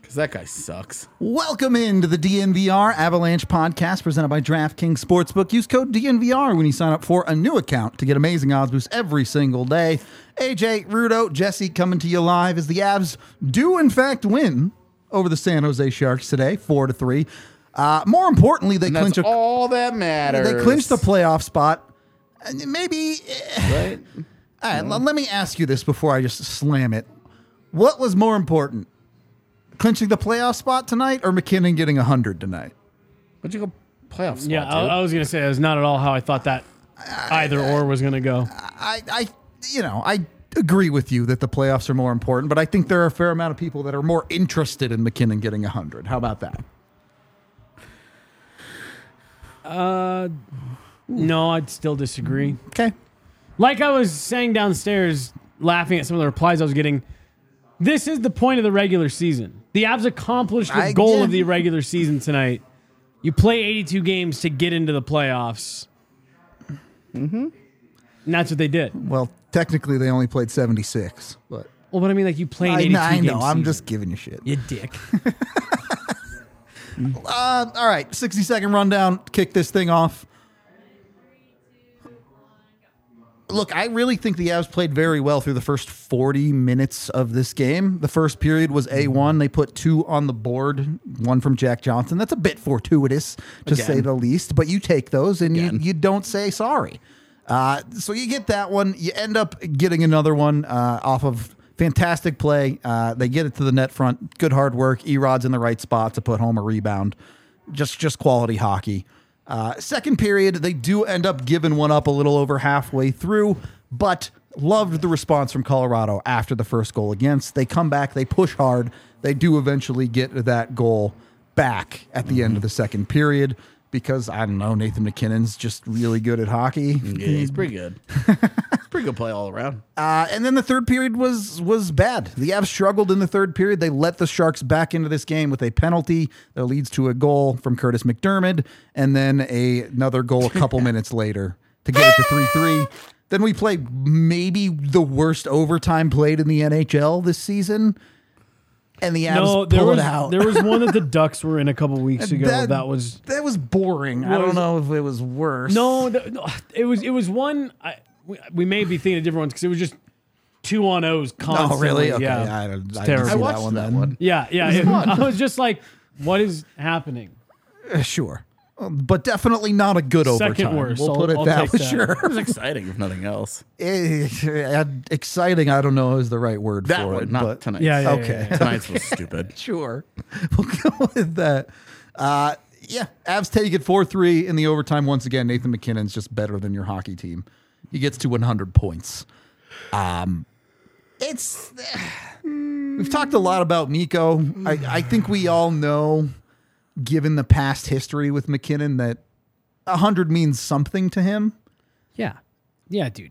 Because that guy sucks. Welcome into the DNVR Avalanche podcast presented by DraftKings Sportsbook. Use code DNVR when you sign up for a new account to get amazing odds boosts every single day. AJ, Rudo, Jesse coming to you live as the Avs do in fact win over the San Jose Sharks today, 4-3. More importantly, they clinch all that matters. They clinch the playoff spot. Maybe. Right? All right, let me ask you this before I just slam it. What was more important? Clinching the playoff spot tonight or McKinnon getting 100 tonight? What'd you go playoff spot? Yeah, I was going to say that's not at all how I thought that either or was going to go. I agree with you that the playoffs are more important, but I think there are a fair amount of people that are more interested in McKinnon getting 100. How about that? No, I'd still disagree. Okay. Like I was saying downstairs, laughing at some of the replies I was getting, this is the point of the regular season. The Avs accomplished the goal of the regular season tonight. You play 82 games to get into the playoffs. Mm-hmm. And that's what they did. Well, technically they only played 76, but Well, but I mean, like, you play an 82 I know. game I'm season. just giving you shit. You dick. All right, 60-second rundown. Kick this thing off. Look, I really think the Avs played very well through the first 40 minutes of this game. The first period was A1. They put 2 on the board, 1 from Jack Johnson. That's a bit fortuitous, to say the least, but you take those and you don't say sorry. So you get that one. You end up getting another one off of fantastic play. They get it to the net front. Good hard work. Erod's in the right spot to put home a rebound. Just quality hockey. Second period, they do end up giving one up a little over halfway through, but loved the response from Colorado after the first goal against. They come back, they push hard. They do eventually get that goal back at the end of the second period because, I don't know, Nathan McKinnon's just really good at hockey. Yeah, he's pretty good. Pretty good play all around. And then the third period was bad. The Avs struggled in the third period. They let the Sharks back into this game with a penalty that leads to a goal from Curtis McDermott, and then another goal a couple minutes later to get it to 3-3. Then we played maybe the worst overtime played in the NHL this season, and the Avs pull it out. There was one that the Ducks were in a couple weeks ago. That was boring. I don't know if it was worse. No, it was one. We may be thinking of different ones because it was just 2-on-0s constantly. Oh, really? Okay. Yeah. I didn't terrible. see I watched that one. Yeah. I was just like, what is happening? Sure. But definitely not a good overtime. Second worst. We'll put it that way. Sure. It was exciting, if nothing else. Exciting, I don't know is the right word That for one, it. not but tonight. Yeah. Okay. Tonight's was stupid. Sure. We'll go with that. Avs take it 4-3 in the overtime. Once again, Nathan McKinnon's just better than your hockey team. He gets to 100 points. We've talked a lot about Mikko. I think we all know, given the past history with McKinnon, that 100 means something to him. Yeah, dude.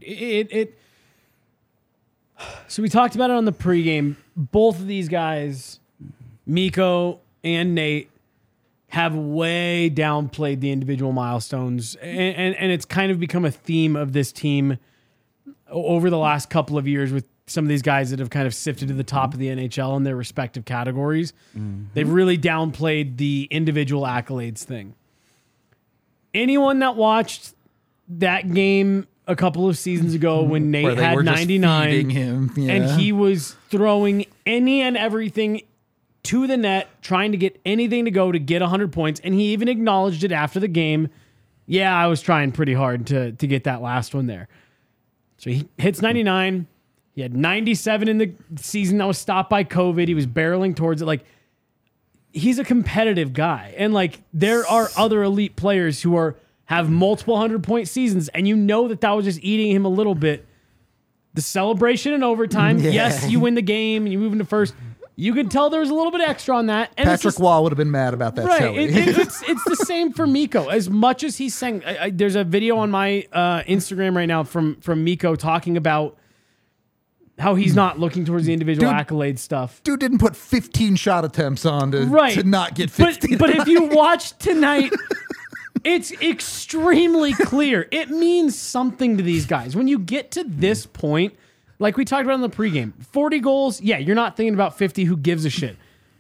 So we talked about it on the pregame. Both of these guys, Mikko and Nate, have way downplayed the individual milestones, and it's kind of become a theme of this team over the last couple of years with some of these guys that have kind of sifted to the top of the NHL in their respective categories. Mm-hmm. They've really downplayed the individual accolades thing. Anyone that watched that game a couple of seasons ago when Nate had 99 and he was throwing any and everything to the net, trying to get anything to go to get 100 points, and he even acknowledged it after the game. Yeah, I was trying pretty hard to get that last one there. So he hits 99. He had 97 in the season that was stopped by COVID. He was barreling towards it. Like, he's a competitive guy. And, like, there are other elite players who have multiple 100-point seasons, and you know that was just eating him a little bit. The celebration in overtime, yes, you win the game and you move into first. You could tell there was a little bit extra on that. And Patrick Waugh would have been mad about that. Right. It's the same for Mikko. As much as he's saying, there's a video on my Instagram right now from Mikko talking about how he's not looking towards the individual accolade stuff. Dude didn't put 15 shot attempts on to not get 15. But if you watch tonight, it's extremely clear. It means something to these guys. When you get to this point, like we talked about in the pregame, 40 goals, yeah, you're not thinking about 50, who gives a shit.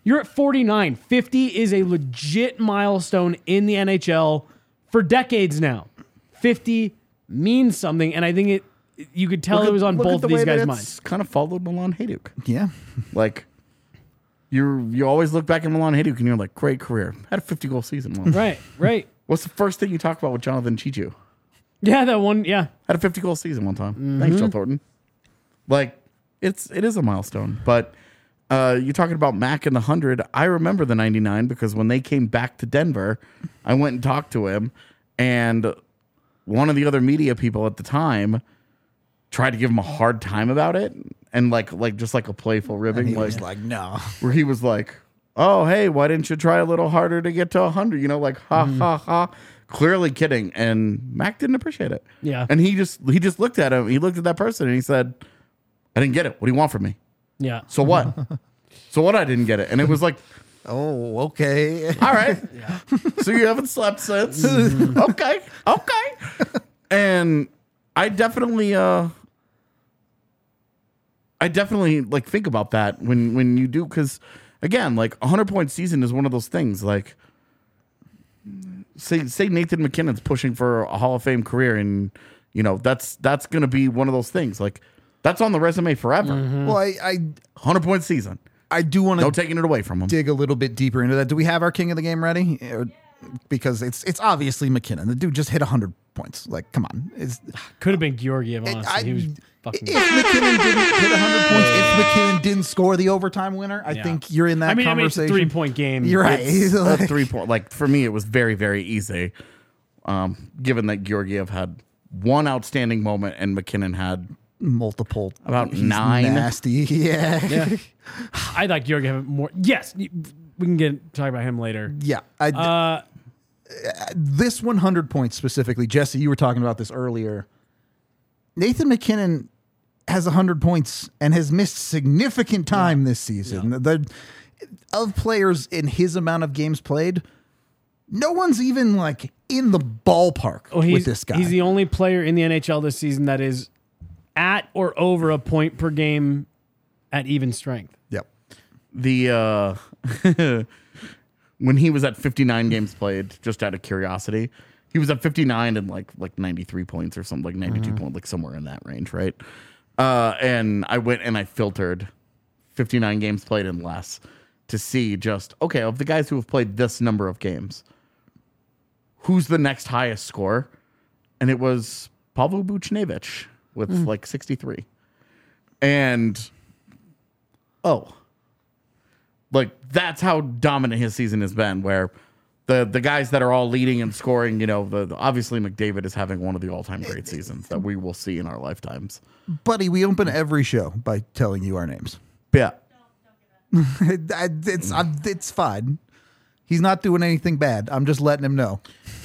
You're at 49. 50 is a legit milestone in the NHL for decades now. 50 means something, and I think you could tell it was on both of these guys' minds. Kind of followed Milan Hajduk. Yeah. Like, you always look back at Milan Hajduk and you're like, great career. Had a 50-goal season once. Right. What's the first thing you talk about with Jonathan Chichu? Yeah, that one, yeah. Had a 50-goal season one time. Thanks, Joe Thornton. Like, it is a milestone. But you're talking about Mac and the 100. I remember the 99 because when they came back to Denver, I went and talked to him. And one of the other media people at the time tried to give him a hard time about it. And like just like a playful ribbing. He was like, no. Where he was like, oh, hey, why didn't you try a little harder to get to 100? You know, like, ha, ha, ha. Clearly kidding. And Mac didn't appreciate it. Yeah. And he just looked at him. He looked at that person and he said, I didn't get it. What do you want from me? Yeah. So what? So what? I didn't get it. And it was like, Oh, okay. all right. So you haven't slept since. Okay. And I definitely like think about that when you do, because again, like 100-point season is one of those things. Like, say Nathan McKinnon's pushing for a Hall of Fame career, and you know that's going to be one of those things. Like, that's on the resume forever. Well, I 100-point season. I do want No to taking it away from him. dig a little bit deeper into that. Do we have our king of the game ready? Because it's obviously McKinnon. The dude just hit 100 points. Like, come on. Could have been Georgiev, honestly. He was fucking If McKinnon didn't hit 100 points, if McKinnon didn't score the overtime winner, I Yeah. think you're in that conversation. It's a 3-point game. You're right. It's a 3-point. Like, for me, it was very, very easy. Given that Georgiev had one outstanding moment and McKinnon had Multiple. About He's 9. Nasty. Yeah. I thought Georgiev had more. Yes, we can talk about him later. Yeah. This 100 points specifically, Jesse, you were talking about this earlier. Nathan McKinnon has 100 points and has missed significant time this season. Of players in his amount of games played, no one's even like in the ballpark with this guy. He's the only player in the NHL this season that is at or over a point per game at even strength. Yep. the when he was at 59 games played, just out of curiosity, he was at 59 and like 93 points or something, like 92 points, like somewhere in that range, right? And I went and I filtered 59 games played and less to see just, okay, of the guys who have played this number of games, who's the next highest score? And it was Pavel Buchnevich with like 63. And like that's how dominant his season has been, where the guys that are all leading and scoring, you know, obviously McDavid is having one of the all-time great seasons that we will see in our lifetimes. Buddy, we open every show by telling you our names. Yeah. It's fine. He's not doing anything bad. I'm just letting him know.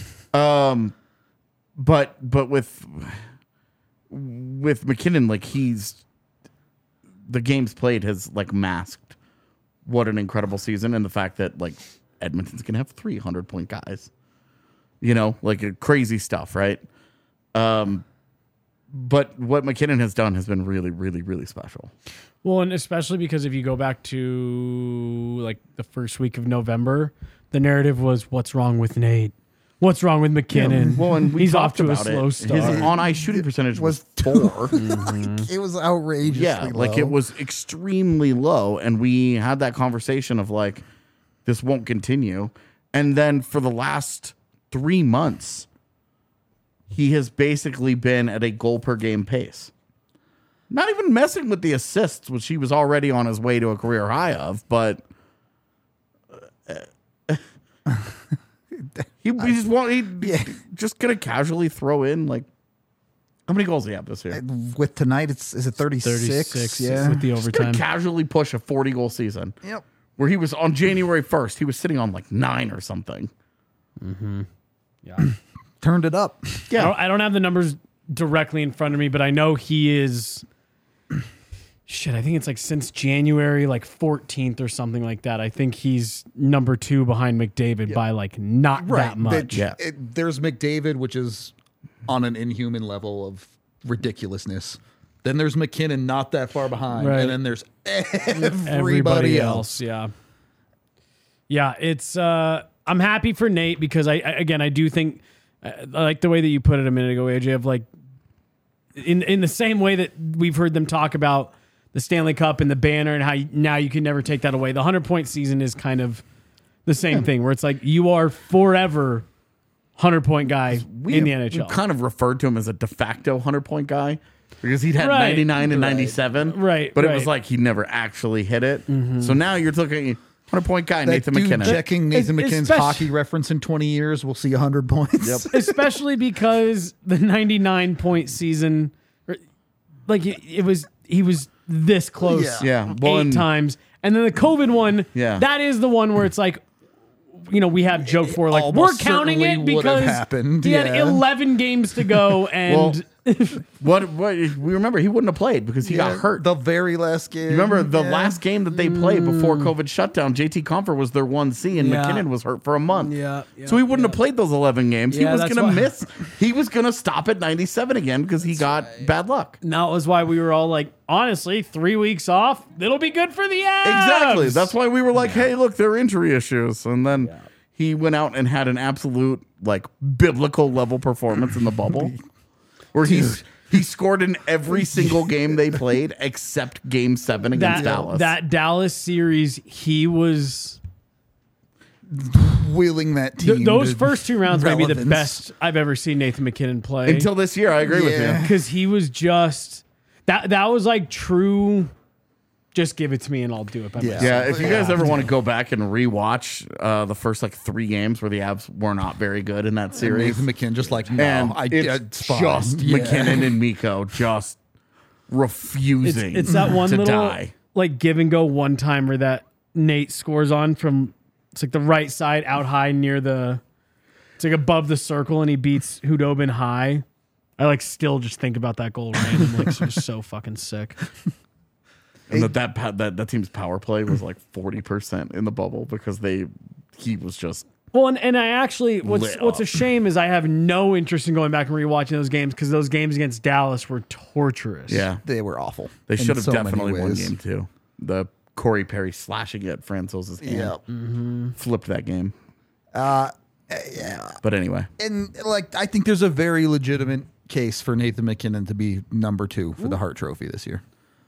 But with McKinnon, like the games played has like masked what an incredible season, and the fact that like Edmonton's gonna have 300-point guys, you know, like crazy stuff, right? But what McKinnon has done has been really, really, really special. Well, and especially because if you go back to like the first week of November, the narrative was, "What's wrong with Nate? What's wrong with McKinnon? Well, and he's off to a slow His start." on-ice shooting percentage was 4. Like, it was outrageously Yeah, like low. it was extremely low, and we had that conversation of like, this won't continue. And then for the last 3 months, he has basically been at a goal per game pace. Not even messing with the assists, which he was already on his way to a career high of, but he's just gonna casually throw in like, how many goals do he have this year? With tonight, is it 36? 36 Yeah. with the Just gonna overtime. casually push a 40-goal season. Yep. Where he was on January 1st, he was sitting on like 9 or something. Yeah. Turned it up. Yeah. I don't have the numbers directly in front of me, but I know he is. Shit, I think it's like since January, like 14th or something like that. I think he's number 2 behind McDavid by like not that much. Yeah. There's McDavid, which is on an inhuman level of ridiculousness. Then there's McKinnon, not that far behind. Right. And then there's everybody Everybody else. else, yeah. Yeah, it's I'm happy for Nate because I do think I like the way that you put it a minute ago, AJ, of like in the same way that we've heard them talk about the Stanley Cup and the banner and how now you can never take that away. The 100-point season is kind of the same thing where it's like you are forever 100-point guy in the NHL. We kind of referred to him as a de facto 100-point guy because he'd had Right. 99 and 97. Right, But it right. was like he never actually hit it. So now you're looking at 100-point guy, That Nathan dude McKinnon. checking Nathan McKinnon's especially- hockey reference in 20 years, we'll see 100 points. Yep. Especially because the 99-point season, like he was this close, Yeah. Well, 8 and- times, and then the COVID one, Yeah. that is the one where it's like, we have joked for like we're almost counting it certainly would have because happened, he had yeah. 11 games to go, and What we remember, he wouldn't have played because he got hurt. The very last game. You remember the Yeah. last game that they played before COVID shutdown? JT Compher was their 1C, and Yeah. McKinnon was hurt for a month. Yeah, so he wouldn't have played those 11 games. He Yeah, was that's going to why- miss. He was going to stop at 97 again because he got bad luck. that was why we were all like, honestly, 3 weeks off, it'll be good for the Avs. Exactly. That's why we were like, hey, look, there are injury issues. And then he went out and had an absolute, like, biblical level performance in the bubble where he scored in every single game they played except game 7 against Dallas. That Dallas series, he was. Wheeling that team. Those to first 2 rounds might be the relevance. best I've ever seen Nathan McKinnon play. Until this year, I agree with Yeah. you. Because he was just that was like true. Just give it to me and I'll do it by myself. Yeah, if you guys Yeah. ever want to go back and rewatch the first like 3 games where the Avs were not very good in that series, Nathan McKinnon just like, no, and it's it's fine. just Yeah. McKinnon and Miko just refusing It's that one to little die. like give and go one timer that Nate scores on from it's like the right side out high near it's like above the circle and he beats Hudobin high. I like still just think about that goal randomly. It's just so fucking sick. And that team's power play was like 40% in the bubble because he was just Well, and I actually what's Lit a up. shame is I have no interest in going back and rewatching those games because those games against Dallas were torturous. yeah. They were awful. They in should have so many definitely won ways. game 2. The Corey Perry slashing at Franzos's hand Yeah. flipped that game. Yeah. But anyway, And like, I think there's a very legitimate case for Nathan McKinnon to be number 2 for the Hart Trophy this year.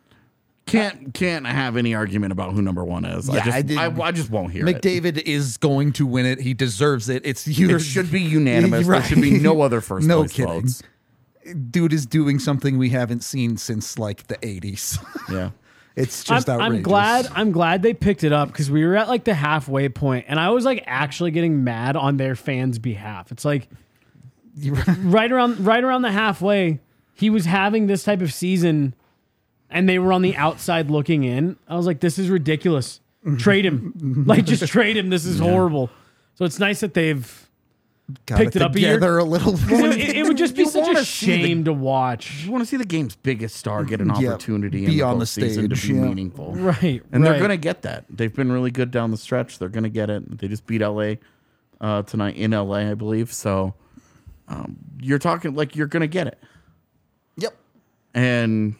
can't have any argument about who number 1 is. Yeah, I just won't hear it. McDavid is going to win it. He deserves it. It's either It should be unanimous. Right. There should be no other first No place kidding. votes. Dude is doing something we haven't seen since like the 80s. Yeah. It's just outrageous. I'm glad they picked it up because we were at like the halfway point and I was like actually getting mad on their fans' behalf. It's like right around the halfway, he was having this type of season and they were on the outside looking in. I was like, this is ridiculous. Trade him. Like just trade him. This is horrible. So it's nice that they've Got picked it up a year. together a little bit. it would just be You such a wanna see the- shame to watch. You want to see the game's biggest star get an Yeah, opportunity be in on the postseason to stage, be yeah. meaningful. Right. And they're right. going to get that. They've been really good down the stretch. They're going to get it. They just beat LA tonight in LA, I believe. So you're talking like you're going to get it. Yep. And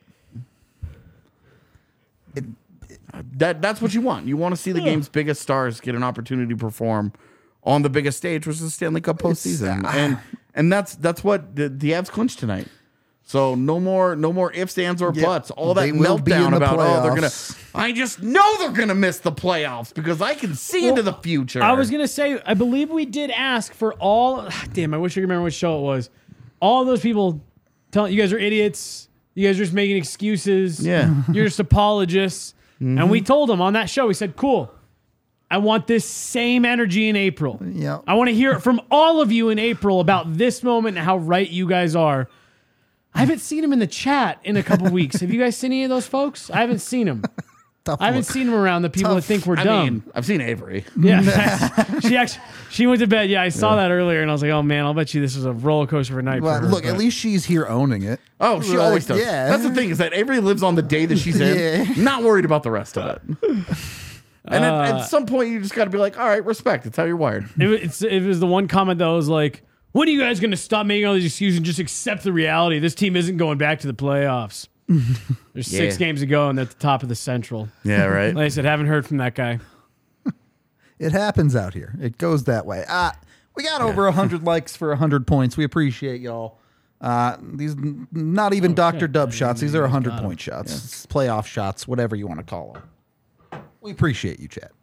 that's what you want. You want to see the game's biggest stars get an opportunity to perform on the biggest stage, which is the Stanley Cup postseason. And that's what the Avs clinched tonight. So no more ifs, ands, or Yep. buts. All that They will be in meltdown the about playoffs. I just know they're gonna miss the playoffs because I can see into the future. I was gonna say, I believe we did ask for all. Damn, I wish I could remember which show it was. All those people telling you guys are idiots. You guys are just making excuses. Yeah. You're just apologists. And we told them on that show. We said, "Cool. I want this same energy in April. Yeah. I want to hear it from all of you in April about this moment and how right you guys are." I haven't seen him in the chat in a couple weeks. Have you guys seen any of those folks? I haven't seen them. Tough I haven't look. seen them around the people that think we're dumb. I mean, I've seen Avery. Yeah, she went to bed. Yeah, I saw that earlier, and I was like, "Oh man, I'll bet you this was a roller coaster of a night." Well, for her, look, but- at least she's here owning it. Oh, she Like, always does. yeah. That's the thing is that Avery lives on the day that she's in, Yeah. not worried about the rest of it. And at some point, you just got to be like, all right, respect. It's how you're wired. it was the one comment that was like, "When are you guys going to stop making all these excuses and just accept the reality? This team isn't going back to the playoffs. There's 6 Yeah. games to go, and they're at the top of the Central." Yeah, right. Like I said, haven't heard from that guy. It happens out here. It goes that way. We got over 100 likes for 100 points. We appreciate y'all. These not even Dr. Dub shots. These are 100-point shots. Yeah. It's playoff shots, whatever you want to call them. We appreciate you, Chad.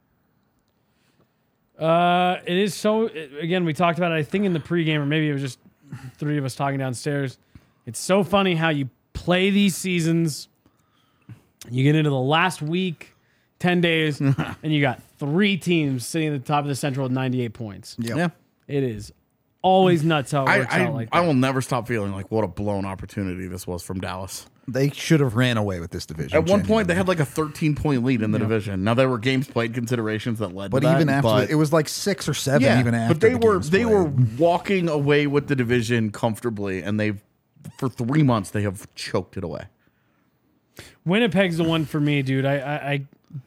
It is so. Again, we talked about it, I think, in the pregame, or maybe it was just three of us talking downstairs. It's so funny how you play these seasons. You get into the last week, 10 days, and you got 3 teams sitting at the top of the Central with 98 points. Yep. Yeah. It is always nuts how it works out like that. I will never stop feeling like what a blown opportunity this was from Dallas. They should have ran away with this division. At one point, they had like a 13-point lead in the division. Now there were games played considerations that led But to that. even after, but, it was like 6 or 7 yeah, even after but they the were games they were played. walking away with the division comfortably, and they've for 3 months they have choked it away. Winnipeg's the one for me, dude. I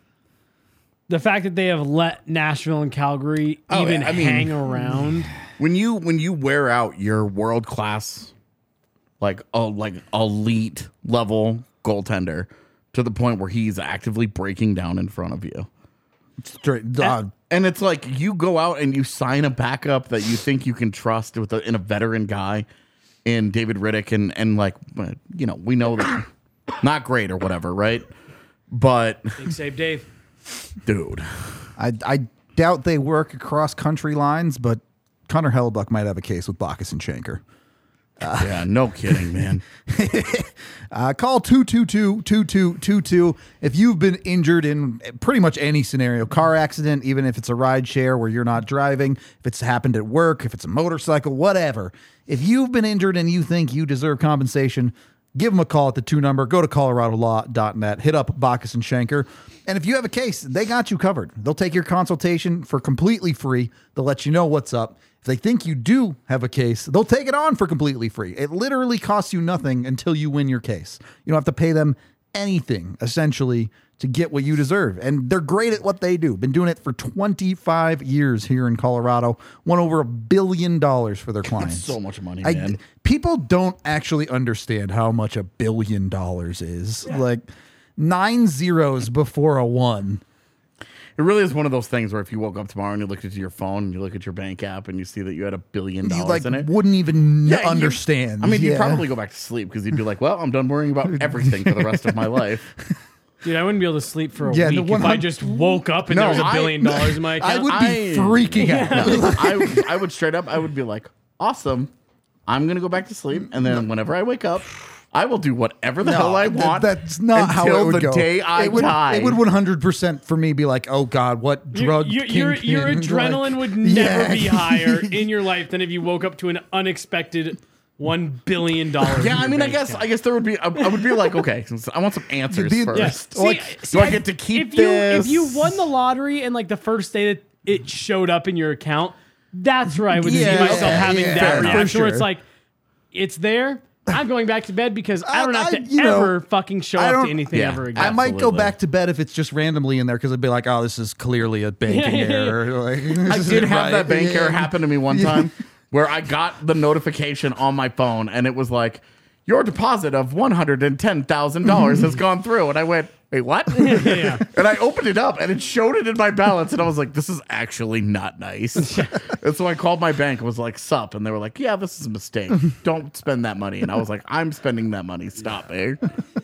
the fact that they have let Nashville and Calgary even hang around. When you wear out your world class, like elite level goaltender to the point where he's actively breaking down in front of you, Straight, and it's like you go out and you sign a backup that you think you can trust in a veteran guy in David Riddick, and like we know that not great or whatever, right? But Big save, Dave. dude, I doubt they work across country lines, but Connor Hellebuck might have a case with Bacchus and Schenker. yeah, no kidding, man. Call 222-2222 if you've been injured in pretty much any scenario, car accident, even if it's a ride share where you're not driving, if it's happened at work, if it's a motorcycle, whatever. If you've been injured and you think you deserve compensation, give them a call at the 2 number. Go to coloradolaw.net. Hit up Bacchus and Schenker. And if you have a case, they got you covered. They'll take your consultation for completely free. They'll let you know what's up. If they think you do have a case, they'll take it on for completely free. It literally costs you nothing until you win your case. You don't have to pay them anything, essentially, to get what you deserve. And they're great at what they do. Been doing it for 25 years here in Colorado. Won over $1 billion for their clients. So much money, man. People don't actually understand how much $1 billion is. Like 9 zeros before a 1. It really is one of those things where if you woke up tomorrow and you looked at your phone and you look at your bank app and you see that you had $1 billion You like in it, wouldn't even Yeah, understand. I mean, you'd Yeah. probably go back to sleep because you'd be like, "Well, I'm done worrying about everything for the rest of my life." Dude, I wouldn't be able to sleep for a Yeah, the week if I just woke up and No, there was $1 I- billion in my account. I would be freaking out. I would straight up, I would be like, "Awesome, I'm gonna go back to sleep," and then whenever I wake up, I will do whatever the hell I want. That's not how until it would the go. day I die. It would 100% for me be like, oh God, what drug? Your kingpin? adrenaline Like, would never yeah. be higher in your life than if you woke up to an unexpected $1 billion. Yeah, I mean, I guess there would be. I would be like, okay, I want some answers The- first. Yeah. Like, See, do I get to keep if this? If you won the lottery and like the first day that it showed up in your account, that's where I would see Yeah, myself having yeah, that fair enough. reaction For where it's sure. like, it's there. I'm going back to bed because I don't have to you know, ever fucking show I up don't- to anything yeah, ever again. I might go Absolutely. back to bed if it's just randomly in there because I'd be like, oh, this is clearly a banking Yeah. error. Like, I did have that bank error Yeah. happen to me one time where I got the notification on my phone and it was like, your deposit of $110,000 has gone through. And I went, wait, what? Yeah. And I opened it up and it showed it in my balance. And I was like, this is actually not nice. And so I called my bank and was like, sup? And they were like, yeah, this is a mistake. Don't spend that money. And I was like, I'm spending that money. Stop, eh?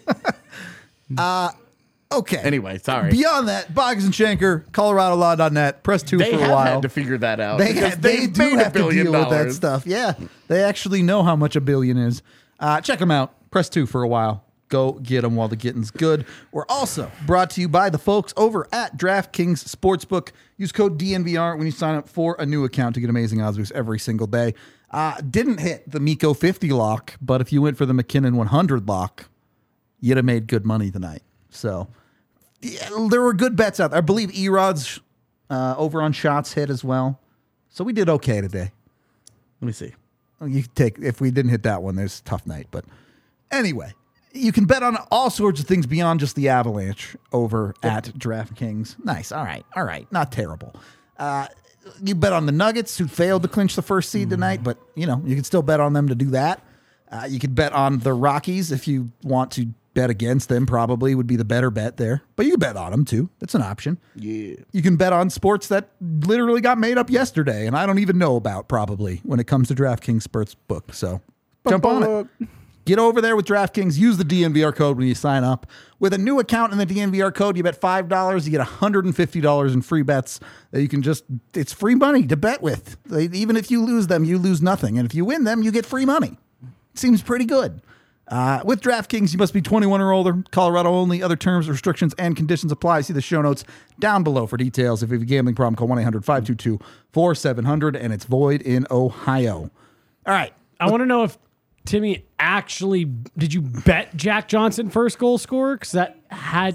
Okay. Anyway, sorry. Beyond that, Boggs and Schenker, ColoradoLaw.net, press 2 They for a have while. had to figure that out. They because they they've do made have $1 to billion. deal with that stuff. Yeah, they actually know how much $1 billion is. Check them out. Press 2 for a while. Go get them while the getting's good. We're also brought to you by the folks over at DraftKings Sportsbook. Use code DNVR when you sign up for a new account to get amazing odds boosts every single day. Didn't hit the Miko 50 lock, but if you went for the McKinnon 100 lock, you'd have made good money tonight. So yeah, there were good bets out there. I believe Erod's over on shots hit as well. So we did okay today. Let me see. You could take, if we didn't hit that one, there's a tough night. But anyway, you can bet on all sorts of things beyond just the Avalanche over at DraftKings. Nice. All right. Not terrible. You bet on the Nuggets, who failed to clinch the first seed tonight, but you can still bet on them to do that. You could bet on the Rockies if you want to bet against them probably would be the better bet there. But you can bet on them too. That's an option. Yeah. You can bet on sports that literally got made up yesterday and I don't even know about probably when it comes to DraftKings Sports Book. So jump on it. Get over there with DraftKings. Use the DNVR code when you sign up. With a new account in the DNVR code, you bet $5, you get $150 in free bets that you can it's free money to bet with. Even if you lose them, you lose nothing. And if you win them, you get free money. Seems pretty good. With DraftKings, you must be 21 or older. Colorado only. Other terms, restrictions, and conditions apply. See the show notes down below for details. If you have a gambling problem, call 1-800-522-4700, and it's void in Ohio. All right. I want to know if Timmy did you bet Jack Johnson first goal scorer? Because that had.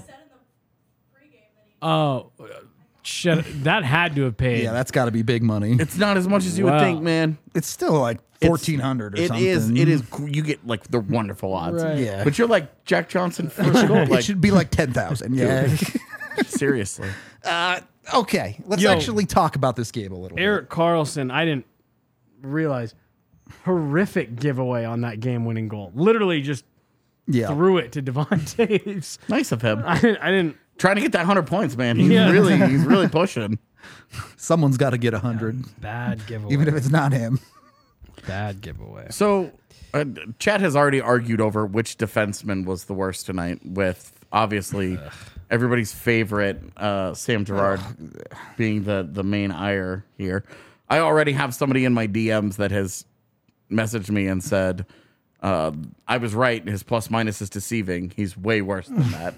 Oh, shit. That had to have paid. Yeah, that's got to be big money. It's not as much as you would think, man. It's still like 1,400 or something. It is. You get like the wonderful odds. Right. Yeah. But you're like Jack Johnson first goal. It Like, should be like 10,000. Yeah. seriously. Okay. Let's actually talk about this game a little Erik Karlsson, I didn't realize, horrific giveaway on that game-winning goal. Literally just bit. Yeah. threw it to Devon Taves. Nice of him. I didn't. Trying to get that 100 points, man. He's Yeah. really pushing. Someone's got to get 100, Bad giveaway. even if it's not him. Bad giveaway. So, Chad has already argued over which defenseman was the worst tonight, with obviously everybody's favorite Sam Girard being the main ire here. I already have somebody in my DMs that has messaged me and said, I was right. His plus minus is deceiving. He's way worse than that.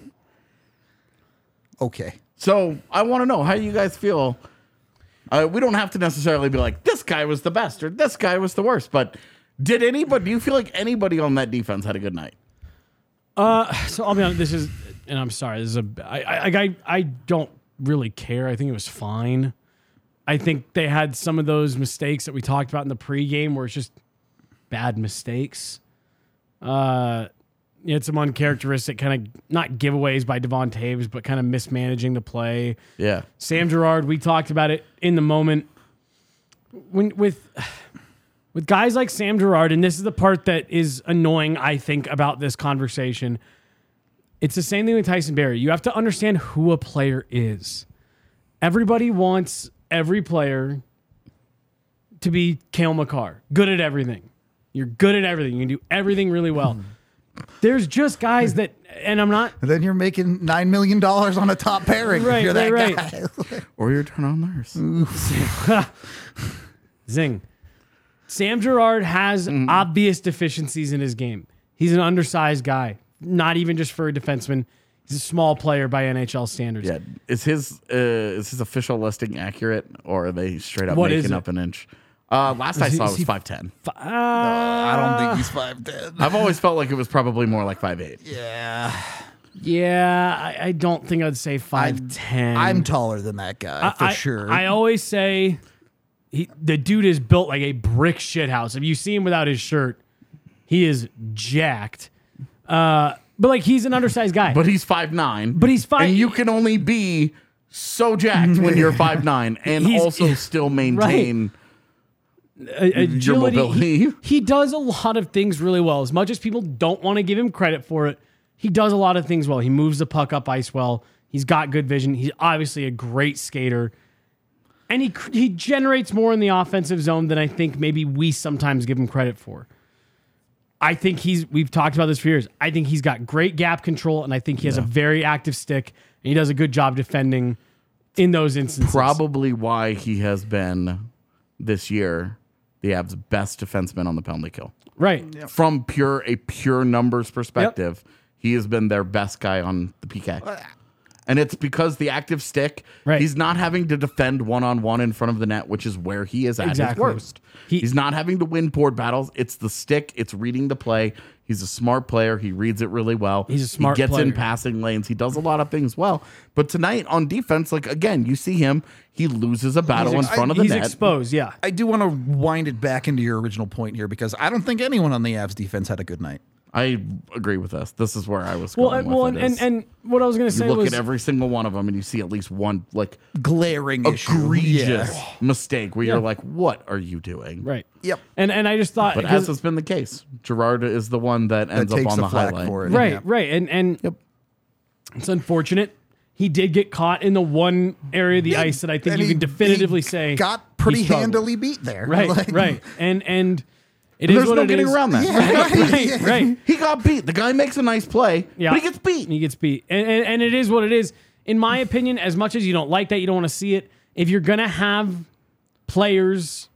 Okay. So I want to know how you guys feel. We don't have to necessarily be like, this guy was the best or this guy was the worst, but do you feel like anybody on that defense had a good night? So I'll be honest, and I'm sorry, I don't really care. I think it was fine. I think they had some of those mistakes that we talked about in the pregame where it's just bad mistakes. You had some uncharacteristic kind of, not giveaways by Devon Taves, but kind of mismanaging the play. Yeah. Sam Girard, we talked about it in the moment. With guys like Sam Girard, and this is the part that is annoying, I think, about this conversation. It's the same thing with Tyson Barrie. You have to understand who a player is. Everybody wants every player to be Cale Makar, good at everything. You're good at everything. You can do everything really well. There's just guys that, and I'm not. And then you're making $9 million on a top pairing. Right, if you're that right. guy. Or your turn on nurse. Zing. Sam Girard has obvious deficiencies in his game. He's an undersized guy, not even just for a defenseman. He's a small player by NHL standards. Yeah. Is his official listing accurate, or are they straight up What is making it? up an inch? Last I saw it was 5'10". I don't think he's 5'10". I've always felt like it was probably more like 5'8". Yeah, I don't think I'd say 5'10". I'm taller than that guy, for sure. I always say the dude is built like a brick shithouse. If you see him without his shirt, he is jacked. But like, he's an undersized guy. But he's 5'9". But he's 5'. And you can only be so jacked when you're 5'9" and He's- also still maintain agility. your mobility. He does a lot of things really well. As much as people don't want to give him credit for it, he does a lot of things well. He moves the puck up ice well. He's got good vision. He's obviously a great skater. And he generates more in the offensive zone than I think maybe we sometimes give him credit for. I think we've talked about this for years. I think he's got great gap control, and I think he has a very active stick, and he does a good job defending in those instances. Probably why he has been, this year, the Avs' best defenseman on the penalty kill. Right. From a pure numbers perspective, he has been their best guy on the PK. And it's because the active stick, Right. he's not having to defend one-on-one in front of the net, which is where he is at his Exactly. worst. He's not having to win board battles. It's the stick. It's reading the play. He's a smart player. He reads it really well. He's a smart He gets in player. passing lanes. He does a lot of things well. But tonight on defense, like, again, you see him. He loses a battle in front of the He's net. exposed, I do want to wind it back into your original point here because I don't think anyone on the Avs defense had a good night. I agree with this. This is where I was going with it. And what I was going to You say look was at every single one of them, and you see at least one like Glaring issue. egregious Yeah. mistake where you're like, "What are you doing?" right. Yep. And I just thought, But as has been the case, Gerard is the one that ends up takes on the the flak highlight. for it. right, Yeah. right, and Yep. it's unfortunate. He did get caught in the one area of the ice that I think And you he- can definitively he say got pretty he struggled. handily beat there. Right, Like- right, and it And is there's what no it getting is. around that. Right, right. He got beat. The guy makes a nice play, Yeah. but he gets beat. He gets beat. And it is what it is. In my opinion, as much as you don't like that, you don't want to see it, if you're going to have players,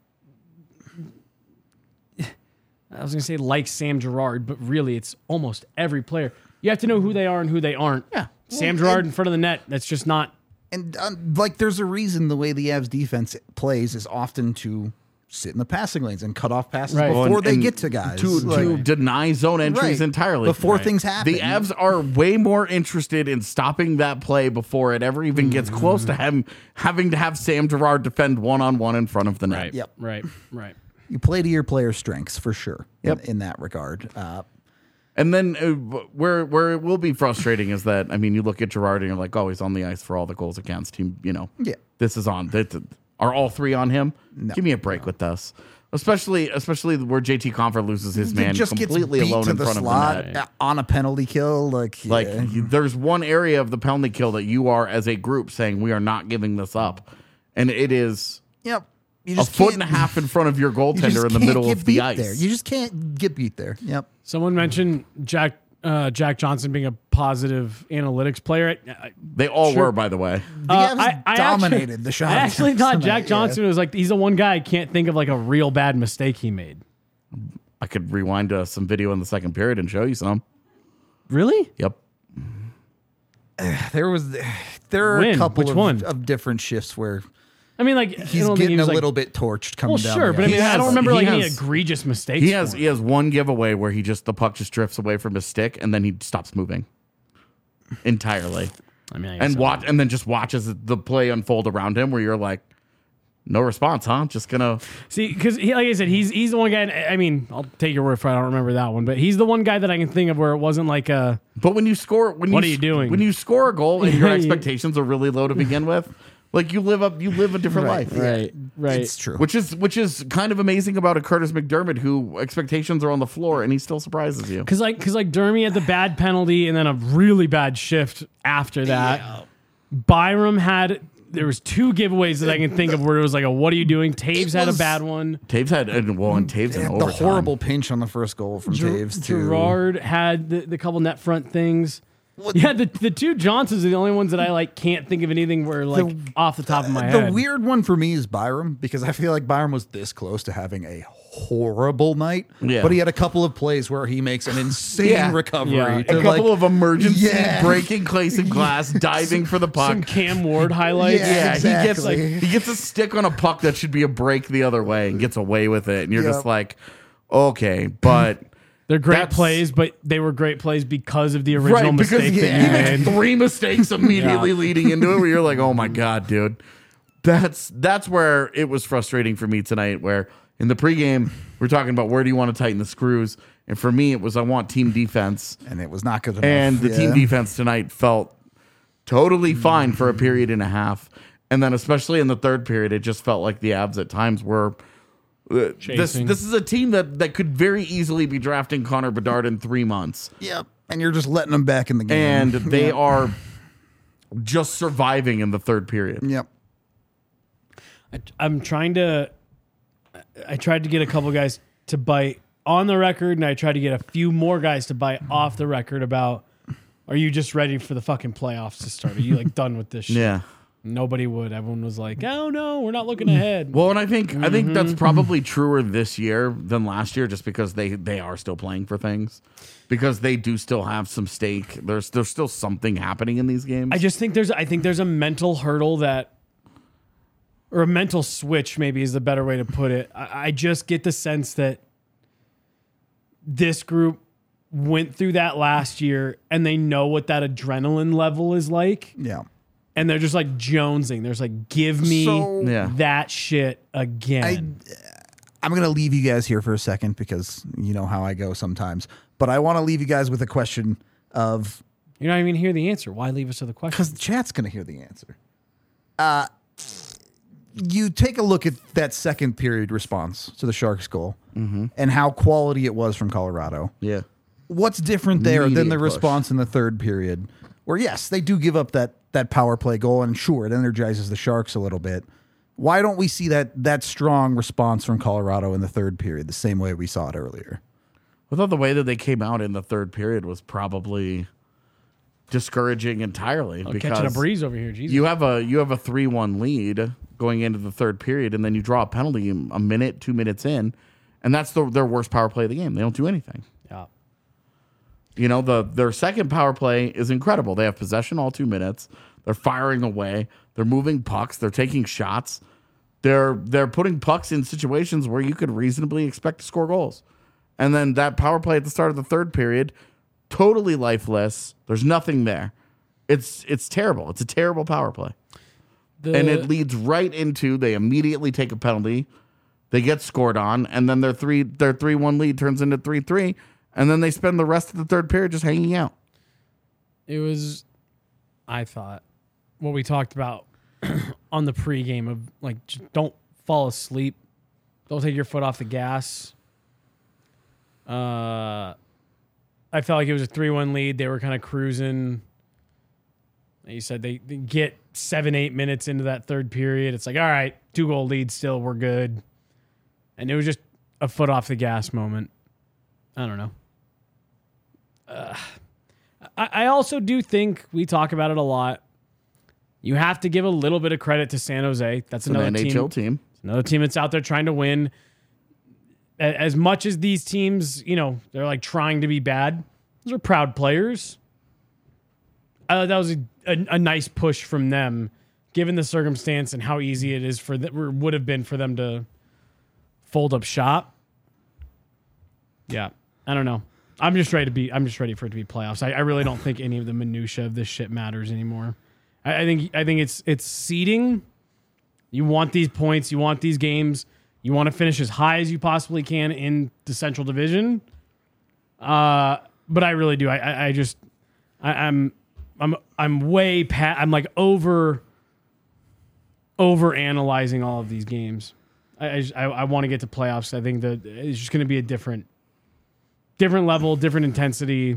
I was going to say like Sam Girard, but really it's almost every player. You have to know who they are and who they aren't. Yeah. Sam Girard in front of the net, that's just not. And like, there's a reason the way the Avs defense plays is often to sit in the passing lanes and cut off passes Right. before Well, and- they and get to guys. to Like- deny zone entries Right. entirely Before things happen. The Avs are way more interested in stopping that play before it ever even gets close to him having to have Sam Girard defend one-on-one in front of the net. Yep. Right, right. You play to your players' strengths for sure. Yep. In that regard. And then where it will be frustrating is that, I mean, you look at Girard and you're like, oh, he's on the ice for all the goals against him. You know, Yeah. this is on. Are all three on him? No. Give me a break with this. Especially where JT Confer loses his man just gets completely beat alone to in the front of the slot net. on a penalty kill. Like There's one area of the penalty kill that you are, as a group, saying we are not giving this up. And it is yep. You a just foot and a can't- half in front of your you goaltender just in the can't middle get of the beat ice. There. You just can't get beat there. Yep. Someone mentioned Jack Johnson being a positive analytics player. They all Sure. were, by the way. The Avs dominated actually, the shot. I actually attempts thought tonight, Jack yeah. Johnson was like, he's the one guy I can't think of like a real bad mistake he made. I could rewind some video in the second period and show you some. Really? Yep. There are When? a couple Which of, one? of different shifts where I mean, like, he's getting a little bit torched coming Well, down. sure, the but I ice. mean, I don't has- remember he like any has- egregious mistakes. He for has him. one giveaway where the puck just drifts away from his stick and then he stops moving entirely. I mean, I guess And then just watches the play unfold around him where you're like, no response, huh? Just gonna see, because like I said, he's the one guy. I mean, I'll take your word for it. I don't remember that one, but he's the one guy that I can think of where it wasn't like a. But when you score, What are you doing? When you score a goal and your Yeah, expectations are really low to begin with, like you live a different life, Right. It's true. Which is kind of amazing about a Curtis McDermott who expectations are on the floor and he still surprises you. Because like Dermy had the bad penalty and then a really bad shift after that. Byram had. There was two giveaways that I can think of where it was like a "What are you doing?" Taves had a was- bad one. Taves had and Taves in the overtime. horrible pinch on the first goal from Taves too. Gerard had the couple net front things. Yeah, the two Johnsons are the only ones that I like can't think of anything where like off the top of my The head. weird one for me is Byram because I feel like Byram was this close to having a horrible night. Yeah. But he had a couple of plays where he makes an insane Yeah. recovery. Yeah. A to, couple like- of emergency Yeah. breaking Clayson glass, diving for the puck. Some Cam Ward highlights. Yeah, exactly. he gets a stick on a puck that should be a break the other way and gets away with it, and you're Yep. just like, okay, but They're great That's- plays, but they were great plays because of the original mistake he that you makes made. 3 mistakes immediately Yeah. leading into it, where you're like, oh my god, dude. That's where it was frustrating for me tonight. Where in the pregame we're talking about where do you want to tighten the screws, and for me it was I want team defense. and it was not good enough. And the team Yeah. defense tonight felt totally fine for a period and a half. And then, especially in the third period, it just felt like the Avs at times were. This Chasing. is a team that could very easily be drafting Connor Bedard in 3 months. Yep. And you're just letting them back in the game. And they are just surviving in the third period. Yep. I'm trying to. I tried to get a couple guys to bite on the record, and I tried to get a few more guys to bite off the record about. Are you just ready for the fucking playoffs to start? Are you like done with this shit? Yeah. Nobody would. Everyone was like, "Oh no, we're not looking ahead." Well, and I think that's probably truer this year than last year, just because they are still playing for things, because they do still have some stake. There's still something happening in these games. I just think there's a mental hurdle that, or a mental switch maybe is the better way to put it. I just get the sense that this group went through that last year and they know what that adrenaline level is like. Yeah. And they're just like jonesing. There's like, give me So- Yeah. that shit again. I'm going to leave you guys here for a second because you know how I go sometimes. But I want to leave you guys with a question of... You're not even hear the answer. Why leave us with a question? Because the chat's going to hear the answer. You take a look at that second period response to the Sharks goal and how quality it was from Colorado. Yeah. What's different there than Immediate the push. response in the third period? Where, yes, they do give up that power play goal, and sure, it energizes the Sharks a little bit. Why don't we see that strong response from Colorado in the third period the same way we saw it earlier? I thought the way that they came out in the third period was probably discouraging entirely. Oh, because catching a breeze over here. Jesus. you have a 3-1 lead going into the third period, and then you draw a penalty a minute, 2 minutes in, and that's their worst power play of the game. They don't do anything. Yeah. You know, their second power play is incredible. They have possession all 2 minutes. They're firing away. They're moving pucks. They're taking shots. They're putting pucks in situations where you could reasonably expect to score goals. And then that power play at the start of the third period, totally lifeless. There's nothing there. It's terrible. It's a terrible power play. And it leads right into they immediately take a penalty. They get scored on, and then their 3-1 lead turns into 3-3, and then they spend the rest of the third period just hanging out. It was, I thought, what we talked about on the pregame of like, just don't fall asleep. Don't take your foot off the gas. I felt like it was a 3-1 lead. They were kind of cruising. Like you said, they get 7-8 minutes into that third period. It's like, all right, 2-goal lead still, we're good. And it was just a foot off the gas moment. I don't know. I also do think, we talk about it a lot, you have to give a little bit of credit to San Jose. That's An another NHL team. Another team that's out there trying to win. As much as these teams, you know, they're like trying to be bad, those are proud players. That was a nice push from them, given the circumstance and how easy it is for them, or would have been for them to fold up shop. Yeah, I don't know. I'm just ready for it to be playoffs. I really don't think any of the minutia of this shit matters anymore. I think it's seeding. You want these points. You want these games. You want to finish as high as you possibly can in the Central Division. But I really do. I'm way past. I'm like over analyzing all of these games. I want to get to playoffs. I think that it's just going to be a different level, different intensity.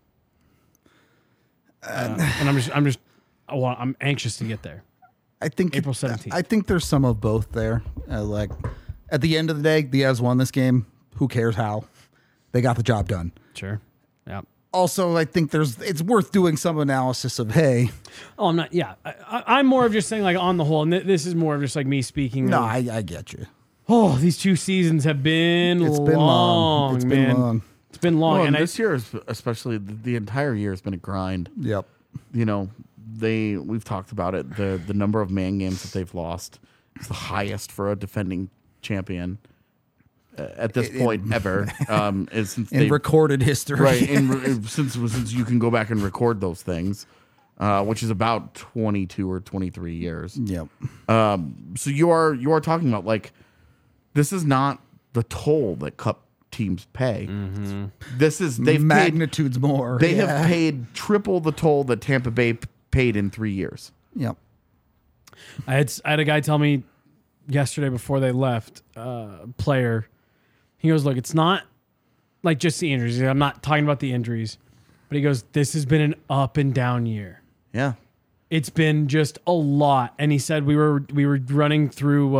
And I'm anxious to get there. I think April 17th. I think there's some of both there. Like at the end of the day, the Avs won this game. Who cares how? They got the job done. Sure. Yeah. Also, I think it's worth doing some analysis of, hey. Oh, I'm not. Yeah. I'm more of just saying, like, on the whole, and this is more of just like me speaking. No, of, I get you. Oh, these 2 seasons have been It's long. been long. It's man. been long. It's been long. Well, and this year, especially the entire year, has been a grind. Yep. You know, we've talked about it. The number of man games that they've lost is the highest for a defending champion at this point ever. Is since in recorded history, right? Since you can go back and record those things, which is about 22 or 23 years. Yep. So you are talking about, like, this is not the toll that Cup teams pay. Mm-hmm. This is they've magnitudes paid, more. They have paid triple the toll that Tampa Bay paid in 3 years. Yep. I had a guy tell me yesterday before they left, player. He goes, look, it's not like just the injuries. I'm not talking about the injuries, but he goes, this has been an up and down year. Yeah. It's been just a lot. And he said we were running through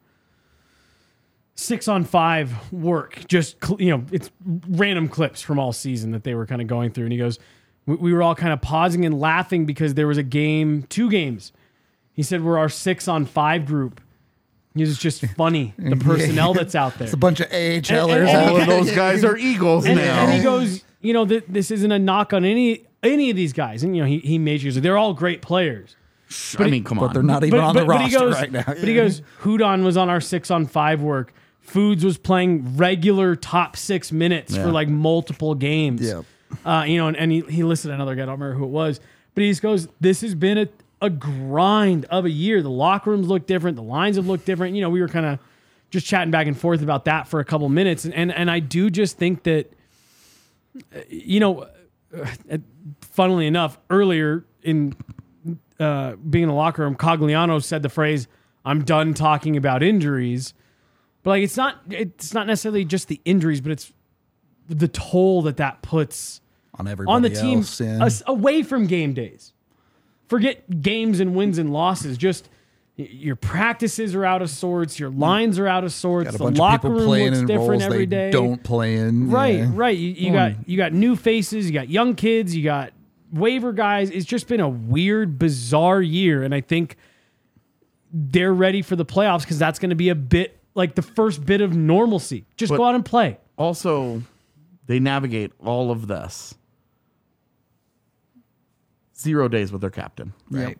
6-on-5 work, just, it's random clips from all season that they were kind of going through. And he goes, we were all kind of pausing and laughing because there was 2 games. He said, we're our 6-on-5 group. It's just funny, the personnel that's out there. It's a bunch of AHLers. And All of those guys are Eagles now. And he goes, this isn't a knock on any of these guys. And, he majors. They're all great players. I mean, come on. But they're not even on the roster he goes, right now. But he goes, Hudon was on our 6-on-5 work. Foods was playing regular top 6 minutes for like multiple games. Yep. And he listed another guy. I don't remember who it was. But he just goes, this has been a grind of a year. The locker rooms look different. The lines have looked different. We were kind of just chatting back and forth about that for a couple minutes. And I do just think that, funnily enough, earlier in being in the locker room, Cogliano said the phrase, "I'm done talking about injuries." But like, it's not necessarily just the injuries, but it's the toll that puts on everybody on the team else, yeah. Away from game days. Forget games and wins and losses. Just your practices are out of sorts. Your lines are out of sorts. Got a The bunch locker of people room playing looks in different roles every they day. don't play in. Right, yeah. right. You got new faces. You got young kids. You got waiver guys. It's just been a weird, bizarre year, and I think they're ready for the playoffs because that's going to be a bit like the first bit of normalcy. Just go out and play. Also, they navigate all of this 0 days with their captain. Right.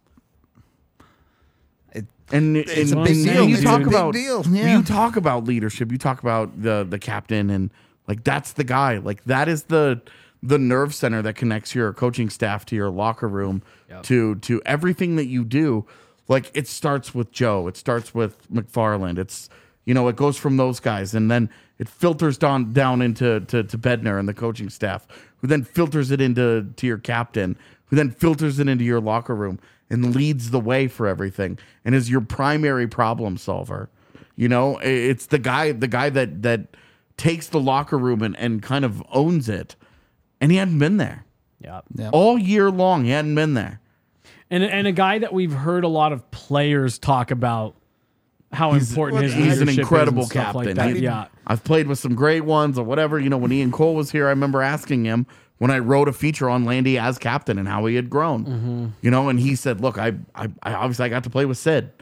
It's a big deal. You It's talk a big about deal. Yeah. you talk about leadership. You talk about the captain, and like that's the guy. Like that is the nerve center that connects your coaching staff to your locker room to everything that you do. Like it starts with Joe. It starts with McFarland. It's it goes from those guys, and then it filters down into to Bednar and the coaching staff, who then filters it into your captain, who then filters it into your locker room and leads the way for everything, and is your primary problem solver. It's the guy that takes the locker room and kind of owns it, and he hadn't been there. Yeah. All year long. He hadn't been there. And a guy that we've heard a lot of players talk about how important his He's leadership an is incredible and stuff captain. Like that. Yeah. I've played with some great ones or whatever. When Ian Cole was here, I remember asking him when I wrote a feature on Landy as captain and how he had grown. And he said, "Look, I obviously I got to play with Sid,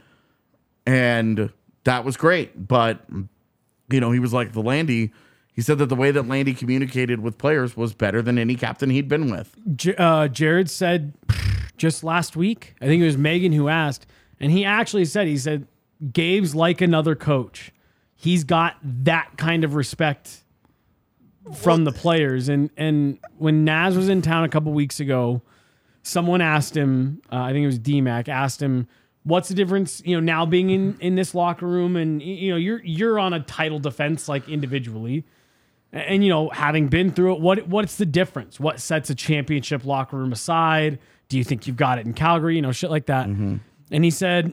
and that was great. But he was like the Landy." He said that the way that Landy communicated with players was better than any captain he'd been with. Jared said just last week, I think it was Megan who asked, and he actually said, Gabe's like another coach. He's got that kind of respect from the players. And when Naz was in town a couple weeks ago, someone asked him, I think it was DMAC, asked him, what's the difference, now being in this locker room and, you're on a title defense, like individually. And, having been through it, what's the difference? What sets a championship locker room aside? Do you think you've got it in Calgary? Shit like that. Mm-hmm. And he said,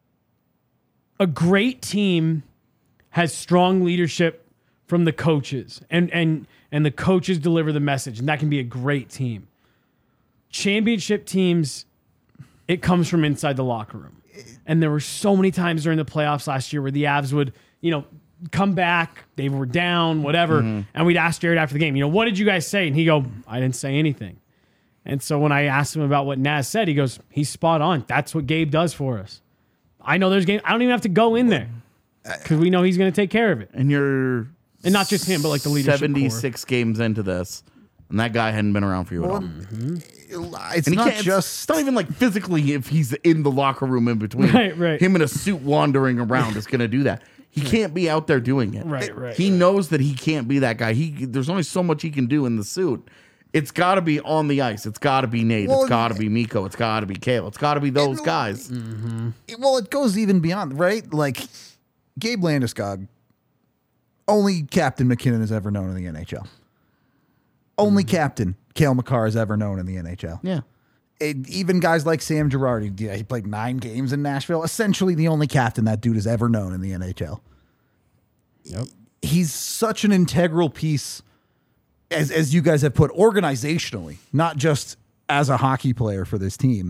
a great team has strong leadership from the coaches, and the coaches deliver the message, and that can be a great team. Championship teams, it comes from inside the locker room. And there were so many times during the playoffs last year where the Avs would, come back, they were down, whatever, and we'd ask Jared after the game, what did you guys say? And he'd go, I didn't say anything. And so when I asked him about what Naz said, he goes, he's spot on. That's what Gabe does for us. I know there's game. I don't even have to go in there because we know he's going to take care of it. And not just him, but like the leadership 76 core. Games into this, and that guy hadn't been around for you at all. It's not just... It's not even like physically if he's in the locker room in between. Right. Him in a suit wandering around is going to do that. He can't be out there doing it. Right. He knows that he can't be that guy. There's only so much he can do in the suit. It's got to be on the ice. It's got to be Nate. It's got to be Mikko. It's got to be Kale. It's got to be those guys. Well, it goes even beyond, right? Like, Gabe Landeskog, only captain McKinnon has ever known in the NHL. Only captain Cale Makar has ever known in the NHL. Yeah. Even guys like Sam Girardi, he played 9 games in Nashville. Essentially the only captain that dude has ever known in the NHL. Yep. He's such an integral piece, as you guys have put, organizationally, not just as a hockey player for this team.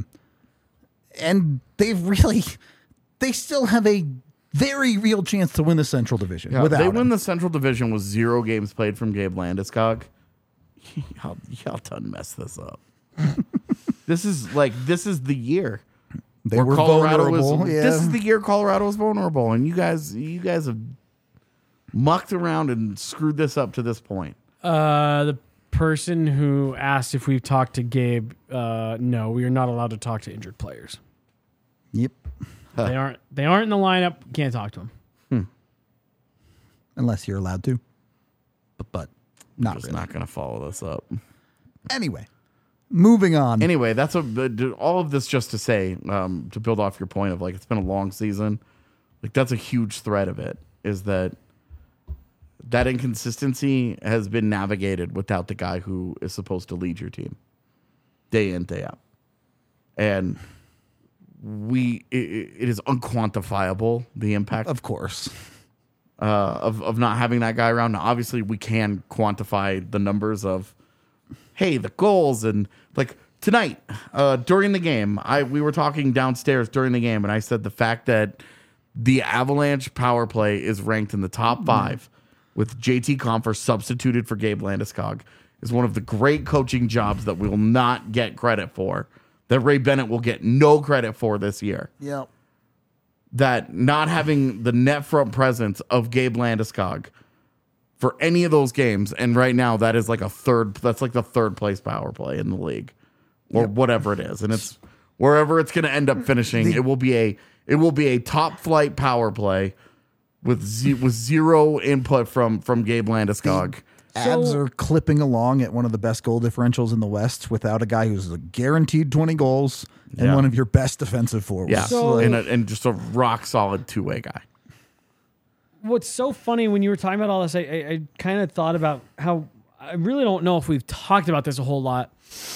And they still have a very real chance to win the Central Division. Yeah, without they him. win the Central Division with 0 games played from Gabe Landeskog. Y'all done mess this up. This is the year. They were vulnerable. This is the year Colorado was vulnerable, and you guys have mucked around and screwed this up to this point. The person who asked if we've talked to Gabe, no, we are not allowed to talk to injured players. Yep. They aren't in the lineup. Can't talk to them. Unless you're allowed to. But not Just really. not going to follow this up. Anyway, moving on. Anyway, that's all of this just to say, to build off your point of like it's been a long season. Like that's a huge threat of it. is that inconsistency has been navigated without the guy who is supposed to lead your team day in, day out. And it is unquantifiable, the impact Of course. of not having that guy around. Now, obviously, we can quantify the numbers of, hey, the goals. And like tonight, during the game, we were talking downstairs during the game, and I said the fact that the Avalanche power play is ranked in the top 5 with JT Compher substituted for Gabe Landeskog is one of the great coaching jobs that we will not get credit for, that Ray Bennett will get no credit for this year. Yep. That not having the net front presence of Gabe Landeskog for any of those games, and right now that's like the third place power play in the league, or whatever it is, and it's wherever it's going to end up finishing. It will be a top flight power play with zero input from Gabe Landeskog. Avs are clipping along at one of the best goal differentials in the West without a guy who's a guaranteed 20 goals and one of your best defensive forwards. Yeah, So- and just a rock solid two-way guy. What's so funny when you were talking about all this, I kind of thought about how I really don't know if we've talked about this a whole lot.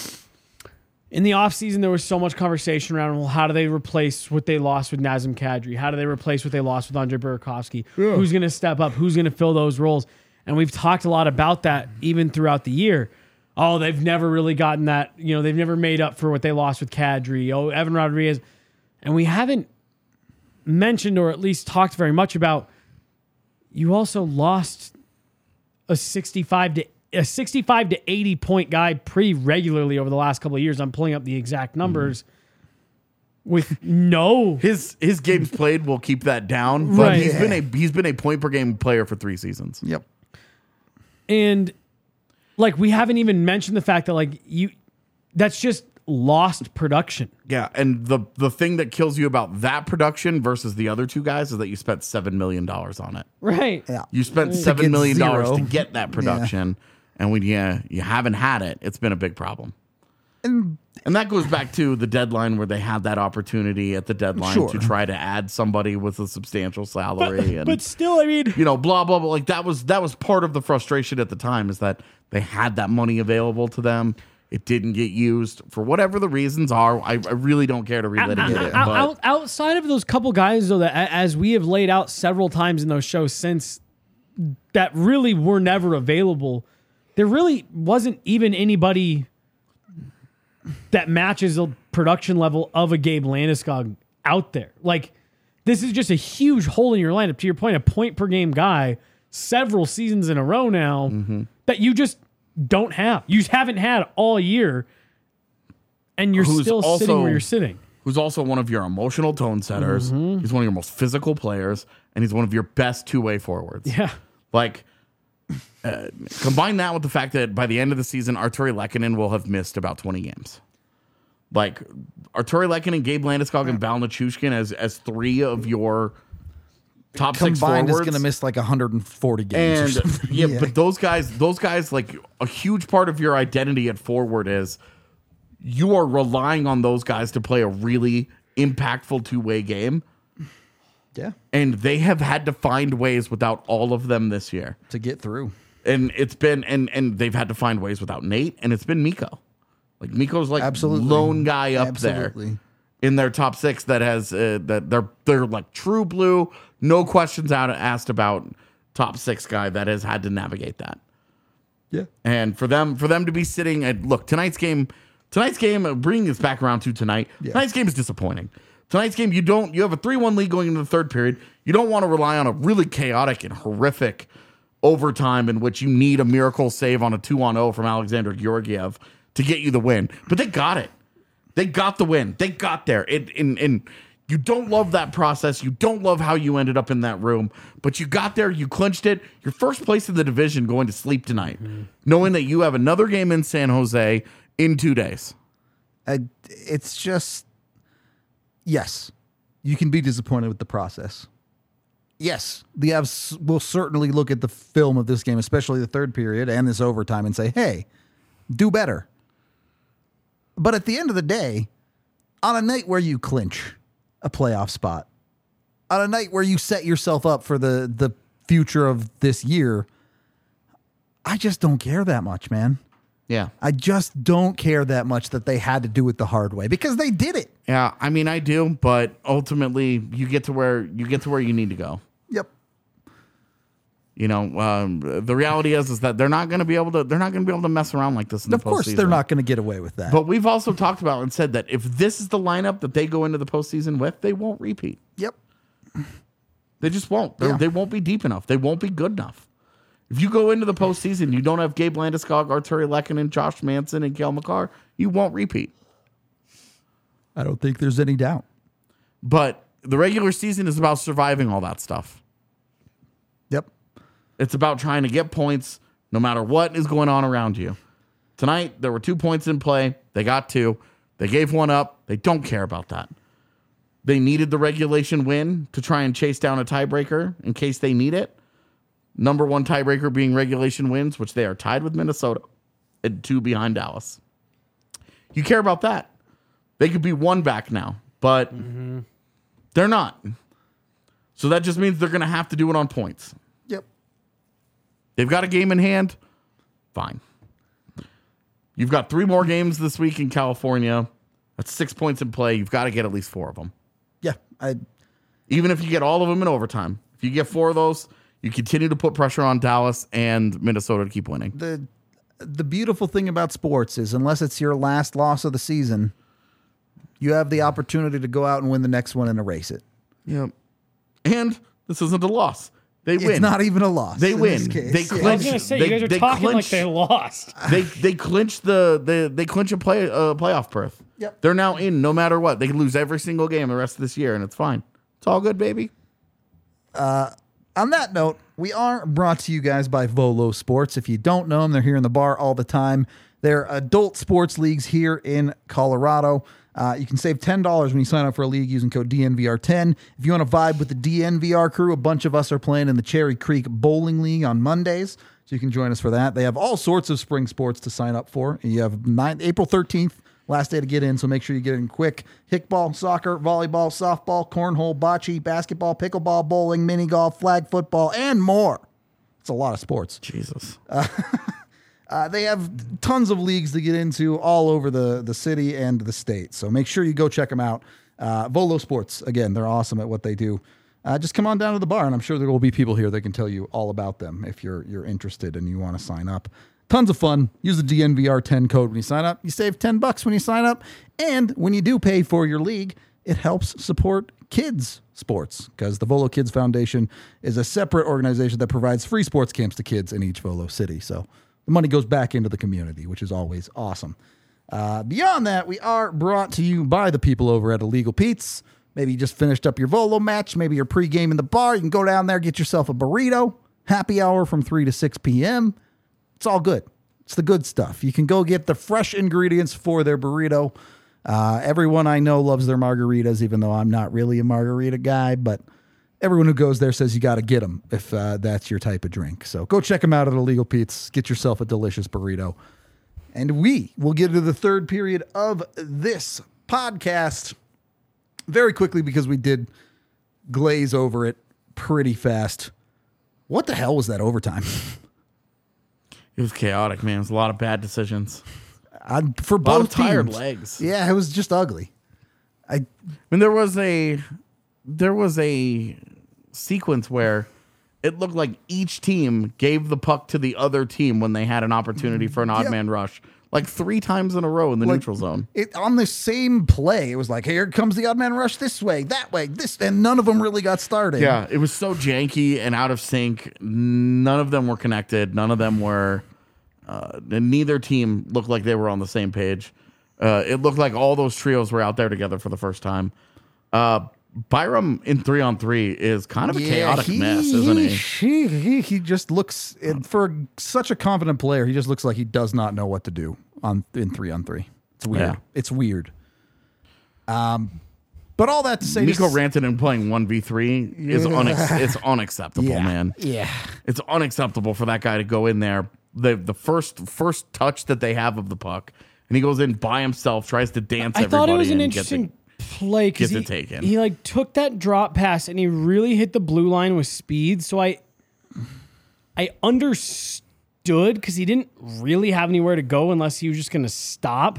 In the offseason, there was so much conversation around, well, how do they replace what they lost with Nazem Kadri? How do they replace what they lost with Andre Burakovsky? Yeah. Who's going to step up? Who's going to fill those roles? And we've talked a lot about that even throughout the year. Oh, they've never really gotten that. You know, they've never made up for what they lost with Kadri. Oh, Evan Rodriguez. And we haven't mentioned or at least talked very much about you also lost a 65 to 80 point guy pretty regularly over the last couple of years. I'm pulling up the exact numbers with no his games played will keep that down, but Right. he's been a point per game player for 3 seasons. Yep. and like we haven't even mentioned the fact that that's just lost production. Yeah, and the thing that kills you about that production versus the other two guys is that you spent $7 million on it. Right. Yeah. You spent get $7 million zero. to get that production, and when you haven't had it, it's been a big problem. And that goes back to the deadline where they had that opportunity at the deadline Sure. to try to add somebody with a substantial salary. But still, I mean, blah, blah, blah. Like that was part of the frustration at the time, is that they had that money available to them. It didn't get used for whatever the reasons are. I really don't care to relitigate it. But outside of those couple guys, though, that as we have laid out several times in those shows since, that really were never available, there really wasn't even anybody that matches the production level of a Gabe Landeskog out there. Like, this is just a huge hole in your lineup. To your point, a point per game guy several seasons in a row now that you just don't have. You haven't had all year, and you're Who's still sitting also- where you're sitting. who's also one of your emotional tone setters. He's one of your most physical players, and he's one of your best two-way forwards. Yeah. Like, combine that with the fact that by the end of the season, Arturi Lehkonen will have missed about 20 games. Like, Arturi Lehkonen, Gabe Landeskog, and Val Nichushkin as 3 of your top 6 Combined is forwards. going to miss like 140 games. And or something. yeah, but those guys, like, a huge part of your identity at forward is you are relying on those guys to play a really impactful two-way game. Yeah. And they have had to find ways without all of them this year. To get through. And it's been and they've had to find ways without Nate, and it's been Mikko. Like, Mikko's like Absolutely. lone guy up Absolutely. there in their top 6 that has that they're like true blue, no questions asked about top 6 guy that has had to navigate that. Yeah. And for them to be sitting at tonight's game, bringing us back around to tonight. Yeah. Tonight's game is disappointing. Tonight's game, you have a 3-1 lead going into the third period. You don't want to rely on a really chaotic and horrific overtime in which you need a miracle save on a 2-on-0 from Alexander Georgiev to get you the win. But they got it. They got the win. They got there. And you don't love that process. You don't love how you ended up in that room. But you got there. You clinched it. You're first place in the division going to sleep tonight, knowing that you have another game in San Jose in 2 days. It's just, yes, you can be disappointed with the process. Yes, the Avs will certainly look at the film of this game, especially the third period and this overtime, and say, hey, do better. But at the end of the day, on a night where you clinch a playoff spot, on a night where you set yourself up for the future of this year, I just don't care that much, man. Yeah. I just don't care that much that they had to do it the hard way because they did it. Yeah, I mean, I do, but ultimately, you get to where you need to go. Yep. You know, the reality is that they're not going to be able to mess around like this in the postseason. Of course, they're not going to get away with that. But we've also talked about and said that if this is the lineup that they go into the postseason with, they won't repeat. Yep. They just won't. Yeah. They won't be deep enough. They won't be good enough. If you go into the postseason, you don't have Gabe Landeskog, Arturi Lehkonen, Josh Manson, and Cale Makar, you won't repeat. I don't think there's any doubt. But the regular season is about surviving all that stuff. Yep. It's about trying to get points no matter what is going on around you. Tonight, there were 2 points in play. They got 2. They gave 1 up. They don't care about that. They needed the regulation win to try and chase down a tiebreaker in case they need it. Number 1 tiebreaker being regulation wins, which they are tied with Minnesota and 2 behind Dallas. You care about that. They could be 1 back now, but they're not. So that just means they're going to have to do it on points. Yep. They've got a game in hand. Fine. You've got 3 more games this week in California. That's 6 points in play. You've got to get at least 4 of them. Yeah. Even if you get all of them in overtime. If you get 4 of those, you continue to put pressure on Dallas and Minnesota to keep winning. The beautiful thing about sports is unless it's your last loss of the season, you have the opportunity to go out and win the next one and erase it. Yep. And this isn't a loss. They win. It's not even a loss. They in win. this case. They Yeah. clinch. I was gonna say you guys are talking like they lost. They clinch they clinch a playoff berth. Yep. They're now in no matter what. They can lose every single game the rest of this year, and it's fine. It's all good, baby. On that note, we are brought to you guys by Volo Sports. If you don't know them, they're here in the bar all the time. They're adult sports leagues here in Colorado. You can save $10 when you sign up for a league using code DNVR10. If you want to vibe with the DNVR crew, a bunch of us are playing in the Cherry Creek Bowling League on Mondays, so you can join us for that. They have all sorts of spring sports to sign up for. You have April 13th, last day to get in, so make sure you get in quick. Kickball, soccer, volleyball, softball, cornhole, bocce, basketball, pickleball, bowling, mini golf, flag football, and more. It's a lot of sports. Jesus. They have tons of leagues to get into all over the city and the state. So make sure you go check them out. Volo Sports, again, they're awesome at what they do. Just come on down to the bar, and I'm sure there will be people here that can tell you all about them if you're interested and you want to sign up. Tons of fun. Use the DNVR10 code when you sign up. You save $10 when you sign up. And when you do pay for your league, it helps support kids sports because the Volo Kids Foundation is a separate organization that provides free sports camps to kids in each Volo city. So the money goes back into the community, which is always awesome. Beyond that, we are brought to you by the people over at Illegal Pete's. Maybe you just finished up your Volo match. Maybe you're pregame in the bar. You can go down there, get yourself a burrito. Happy hour from 3 to 6 p.m. It's all good. It's the good stuff. You can go get the fresh ingredients for their burrito. Everyone I know loves their margaritas, even though I'm not really a margarita guy, but everyone who goes there says you got to get them if that's your type of drink. So go check them out at Illegal Pete's. Get yourself a delicious burrito. And we will get into the third period of this podcast very quickly because we did glaze over it pretty fast. What the hell was that overtime? It was chaotic, man. It was a lot of bad decisions. For A lot both of tired teams. legs. Yeah, it was just ugly. I mean, there was a sequence where it looked like each team gave the puck to the other team when they had an opportunity for an odd man rush, like 3 times in a row in the neutral zone. It on the same play. It was like, here comes the odd man rush this way, that way, this, and none of them really got started. Yeah, it was so janky and out of sync. None of them were connected. None of them were. Neither team looked like they were on the same page. It looked like all those trios were out there together for the first time. Byram in 3-on-3 is kind of a chaotic mess, isn't he? He just looks, for such a confident player, he just looks like he does not know what to do in 3-on-3. It's weird. Yeah. It's weird. But all that to say, Mikko Rantanen playing 1v3 is it's unacceptable, man. Yeah. It's unacceptable for that guy to go in there. The first touch that they have of the puck, and he goes in by himself, tries to dance I everybody. thought it was an and gets interesting play because Gets it taken. he like took that drop pass and he really hit the blue line with speed. So I understood because he didn't really have anywhere to go unless he was just going to stop.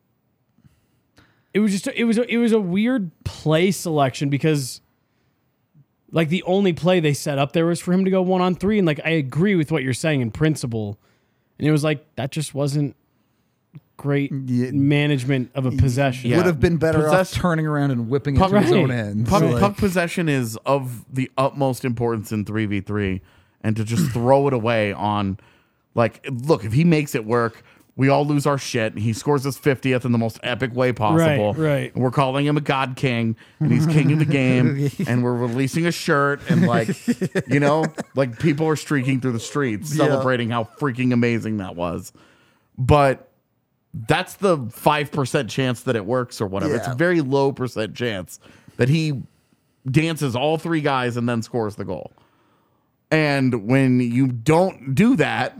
It was a weird play selection because like the only play they set up there was for him to go 1-on-3, and like I agree with what you're saying in principle, and it was like that just wasn't great management of a possession. Yeah. Would have been better off Possess- turning around and whipping it to his own end. Puck possession is of the utmost importance in 3v3, and to just throw it away on, like, look, if he makes it work, we all lose our shit. He scores his 50th in the most epic way possible. Right. And we're calling him a god king, and he's king of the game, and we're releasing a shirt, and like, you know, like people are streaking through the streets celebrating how freaking amazing that was. But that's the 5% chance that it works or whatever. It's a very low percent chance that he dances all three guys and then scores the goal. And when you don't do that,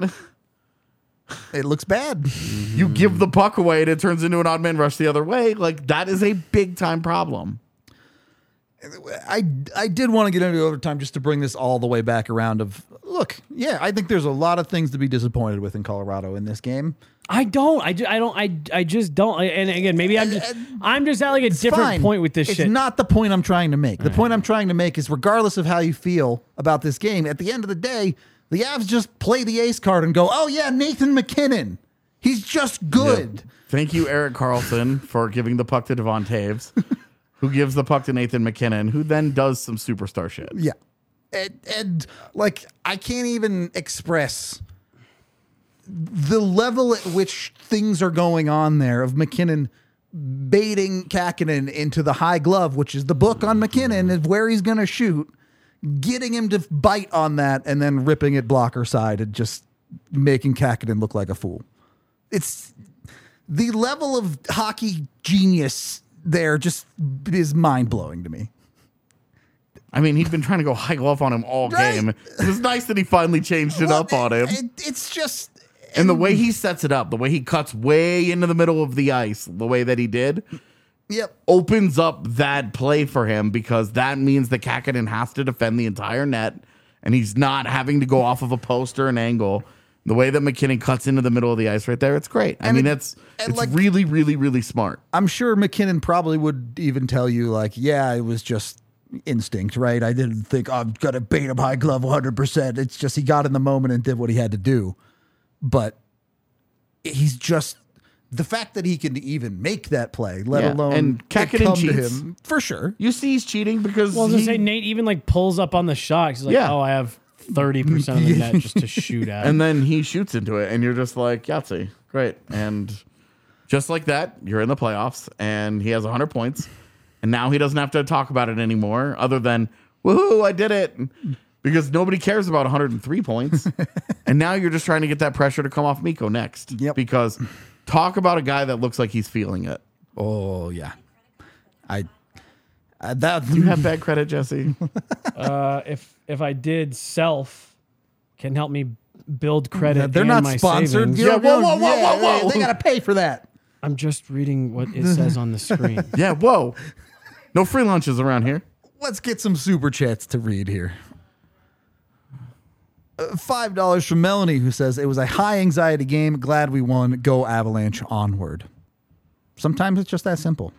It looks bad. you give the puck away and it turns into an odd man rush the other way. Like, that is a big time problem. I did want to get into overtime just to bring this all the way back around of, look, yeah, I think there's a lot of things to be disappointed with in Colorado in this game. I just don't. And again, maybe I'm just at like a different Fine. point with this it's shit. It's not the point I'm trying to make. The point I'm trying to make is regardless of how you feel about this game, at the end of the day, the Avs just play the ace card and go, oh yeah, Nathan McKinnon. He's just good. Yeah. Thank you, Erik Karlsson, for giving the puck to Devon Taves, who gives the puck to Nathan McKinnon, who then does some superstar shit. Yeah. And like, I can't even express the level at which things are going on there of McKinnon baiting Kakinen into the high glove, which is the book on McKinnon, is where he's going to shoot, getting him to bite on that and then ripping it blocker side and just making Kakinen look like a fool. It's the level of hockey genius there just is mind blowing to me. I mean, he'd been trying to go high glove on him all Right. game. It was nice that he finally changed it up on him. It's just... And the way he sets it up, the way he cuts way into the middle of the ice, the way that he did, Yep. opens up that play for him, because that means that Kakinen has to defend the entire net, and he's not having to go off of a post or an angle. The way that McKinnon cuts into the middle of the ice right there, it's great. I mean, it's like, really, really, really smart. I'm sure McKinnon probably would even tell you, like, yeah, it was just instinct, right? I didn't think, I'm going to bait him high glove 100%. It's just he got in the moment and did what he had to do. But he's just... the fact that he can even make that play, let alone and it Kakinen come to cheats. him, for sure. You see he's cheating because Well, I was gonna say Nate even like pulls up on the shot. He's like, Yeah. "Oh, I have 30% of the net just to shoot at." and then he shoots into it, and you're just like, Yahtzee, great. And just like that, you're in the playoffs, and he has 100 points, and now he doesn't have to talk about it anymore, other than, woohoo, I did it. Because nobody cares about 103 points. And now you're just trying to get that pressure to come off Mikko next. Yep. Because talk about a guy that looks like he's feeling it. Oh, yeah. That Do you have bad credit, Jesse? If I did, Self can help me build credit. they're and not my sponsored. savings. You know, Yeah, whoa. They got to pay for that. I'm just reading what it says on the screen. Yeah, whoa. No free lunches around here. Let's get some super chats to read here. $5 from Melanie, who says, it was a high anxiety game. Glad we won. Go Avalanche onward. Sometimes it's just that simple.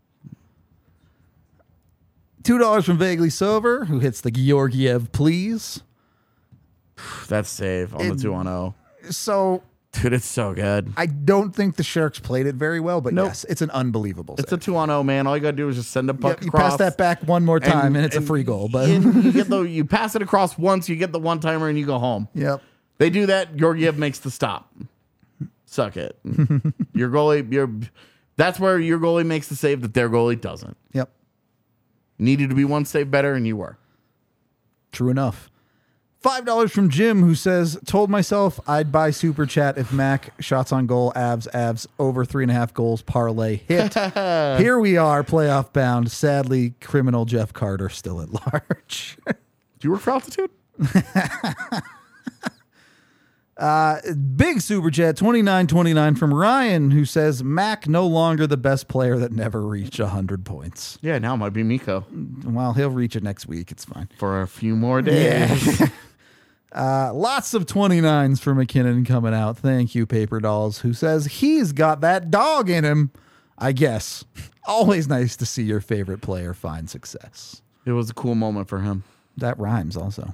$2 from Vaguely Sober, who hits the Georgiev please. That's save on the 2-on-0. So Dude, it's so good. I don't think the Sharks played it very well, but Nope. yes, it's an unbelievable It's save. a 2-on-0, man. All you got to do is just send a puck You across. pass that back one more time, and it's a free goal. But you pass it across once, you get the one-timer, and you go home. yep. They do that. Georgiev makes the stop. Suck it. Your goalie, that's where your goalie makes the save that their goalie doesn't. Yep. Needed to be one save better, and you were. True enough. $5 from Jim, who says, told myself I'd buy Super Chat if Mac shots on goal, Avs, over 3.5 goals, parlay hit. Here we are, playoff bound. Sadly, criminal Jeff Carter still at large. Do you work for Altitude? Big super chat 2929 from Ryan, who says Mac no longer the best player that never reached 100 points. Yeah, now it might be Miko Well, he'll reach it next week. It's fine. for a few more days. Lots of 29s for McKinnon coming out. Thank you, Paper Dolls, who says he's got that dog in him. I guess. Always nice to see your favorite player find success. It was a cool moment for him. That rhymes also.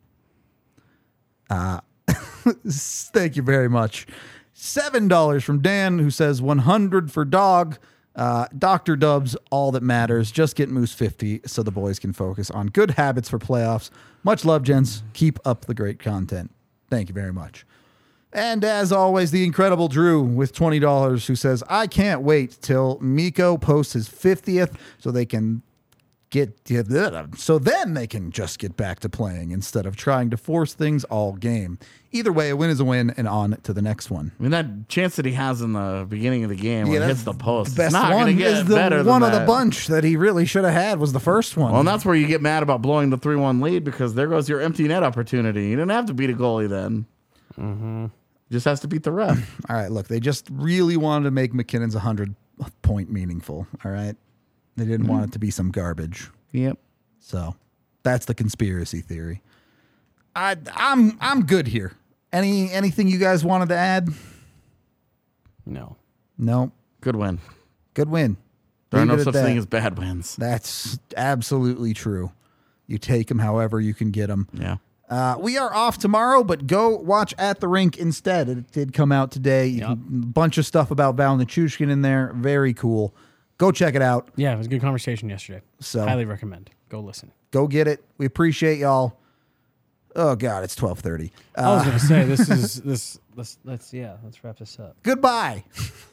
Thank you very much. $7 from Dan, who says 100 for dog. Dr. Dubs, all that matters. Just get Moose 50 so the boys can focus on good habits for playoffs. Much love, gents. Keep up the great content. Thank you very much. And as always, the incredible Drew with $20, who says, I can't wait till Miko posts his 50th so they can so then they can just get back to playing instead of trying to force things all game. Either way, a win is a win, and on to the next one. I mean, that chance that he has in the beginning of the game when it hits the post, The best it's not one going to is get the better than one of that. the bunch that he really should have had was the first one. Well, and that's where you get mad about blowing the 3-1 lead, because there goes your empty net opportunity. You didn't have to beat a goalie then. Mm-hmm. Just has to beat the ref. All right, look, they just really wanted to make McKinnon's 100-point meaningful, all right? They didn't want it to be some garbage. Yep. So that's the conspiracy theory. I'm good here. Anything you guys wanted to add? No. No. Good win. Good win. There are Leave no it at such that. thing as bad wins. That's absolutely true. You take them however you can get them. Yeah. We are off tomorrow, but go watch At the Rink instead. It did come out today. A bunch of stuff about Val Nichushkin in there. Very cool. Go check it out. Yeah, it was a good conversation yesterday. So- highly recommend. Go listen. Go get it. We appreciate y'all. Oh God, it's 12:30. I was going to say let's wrap this up. Goodbye.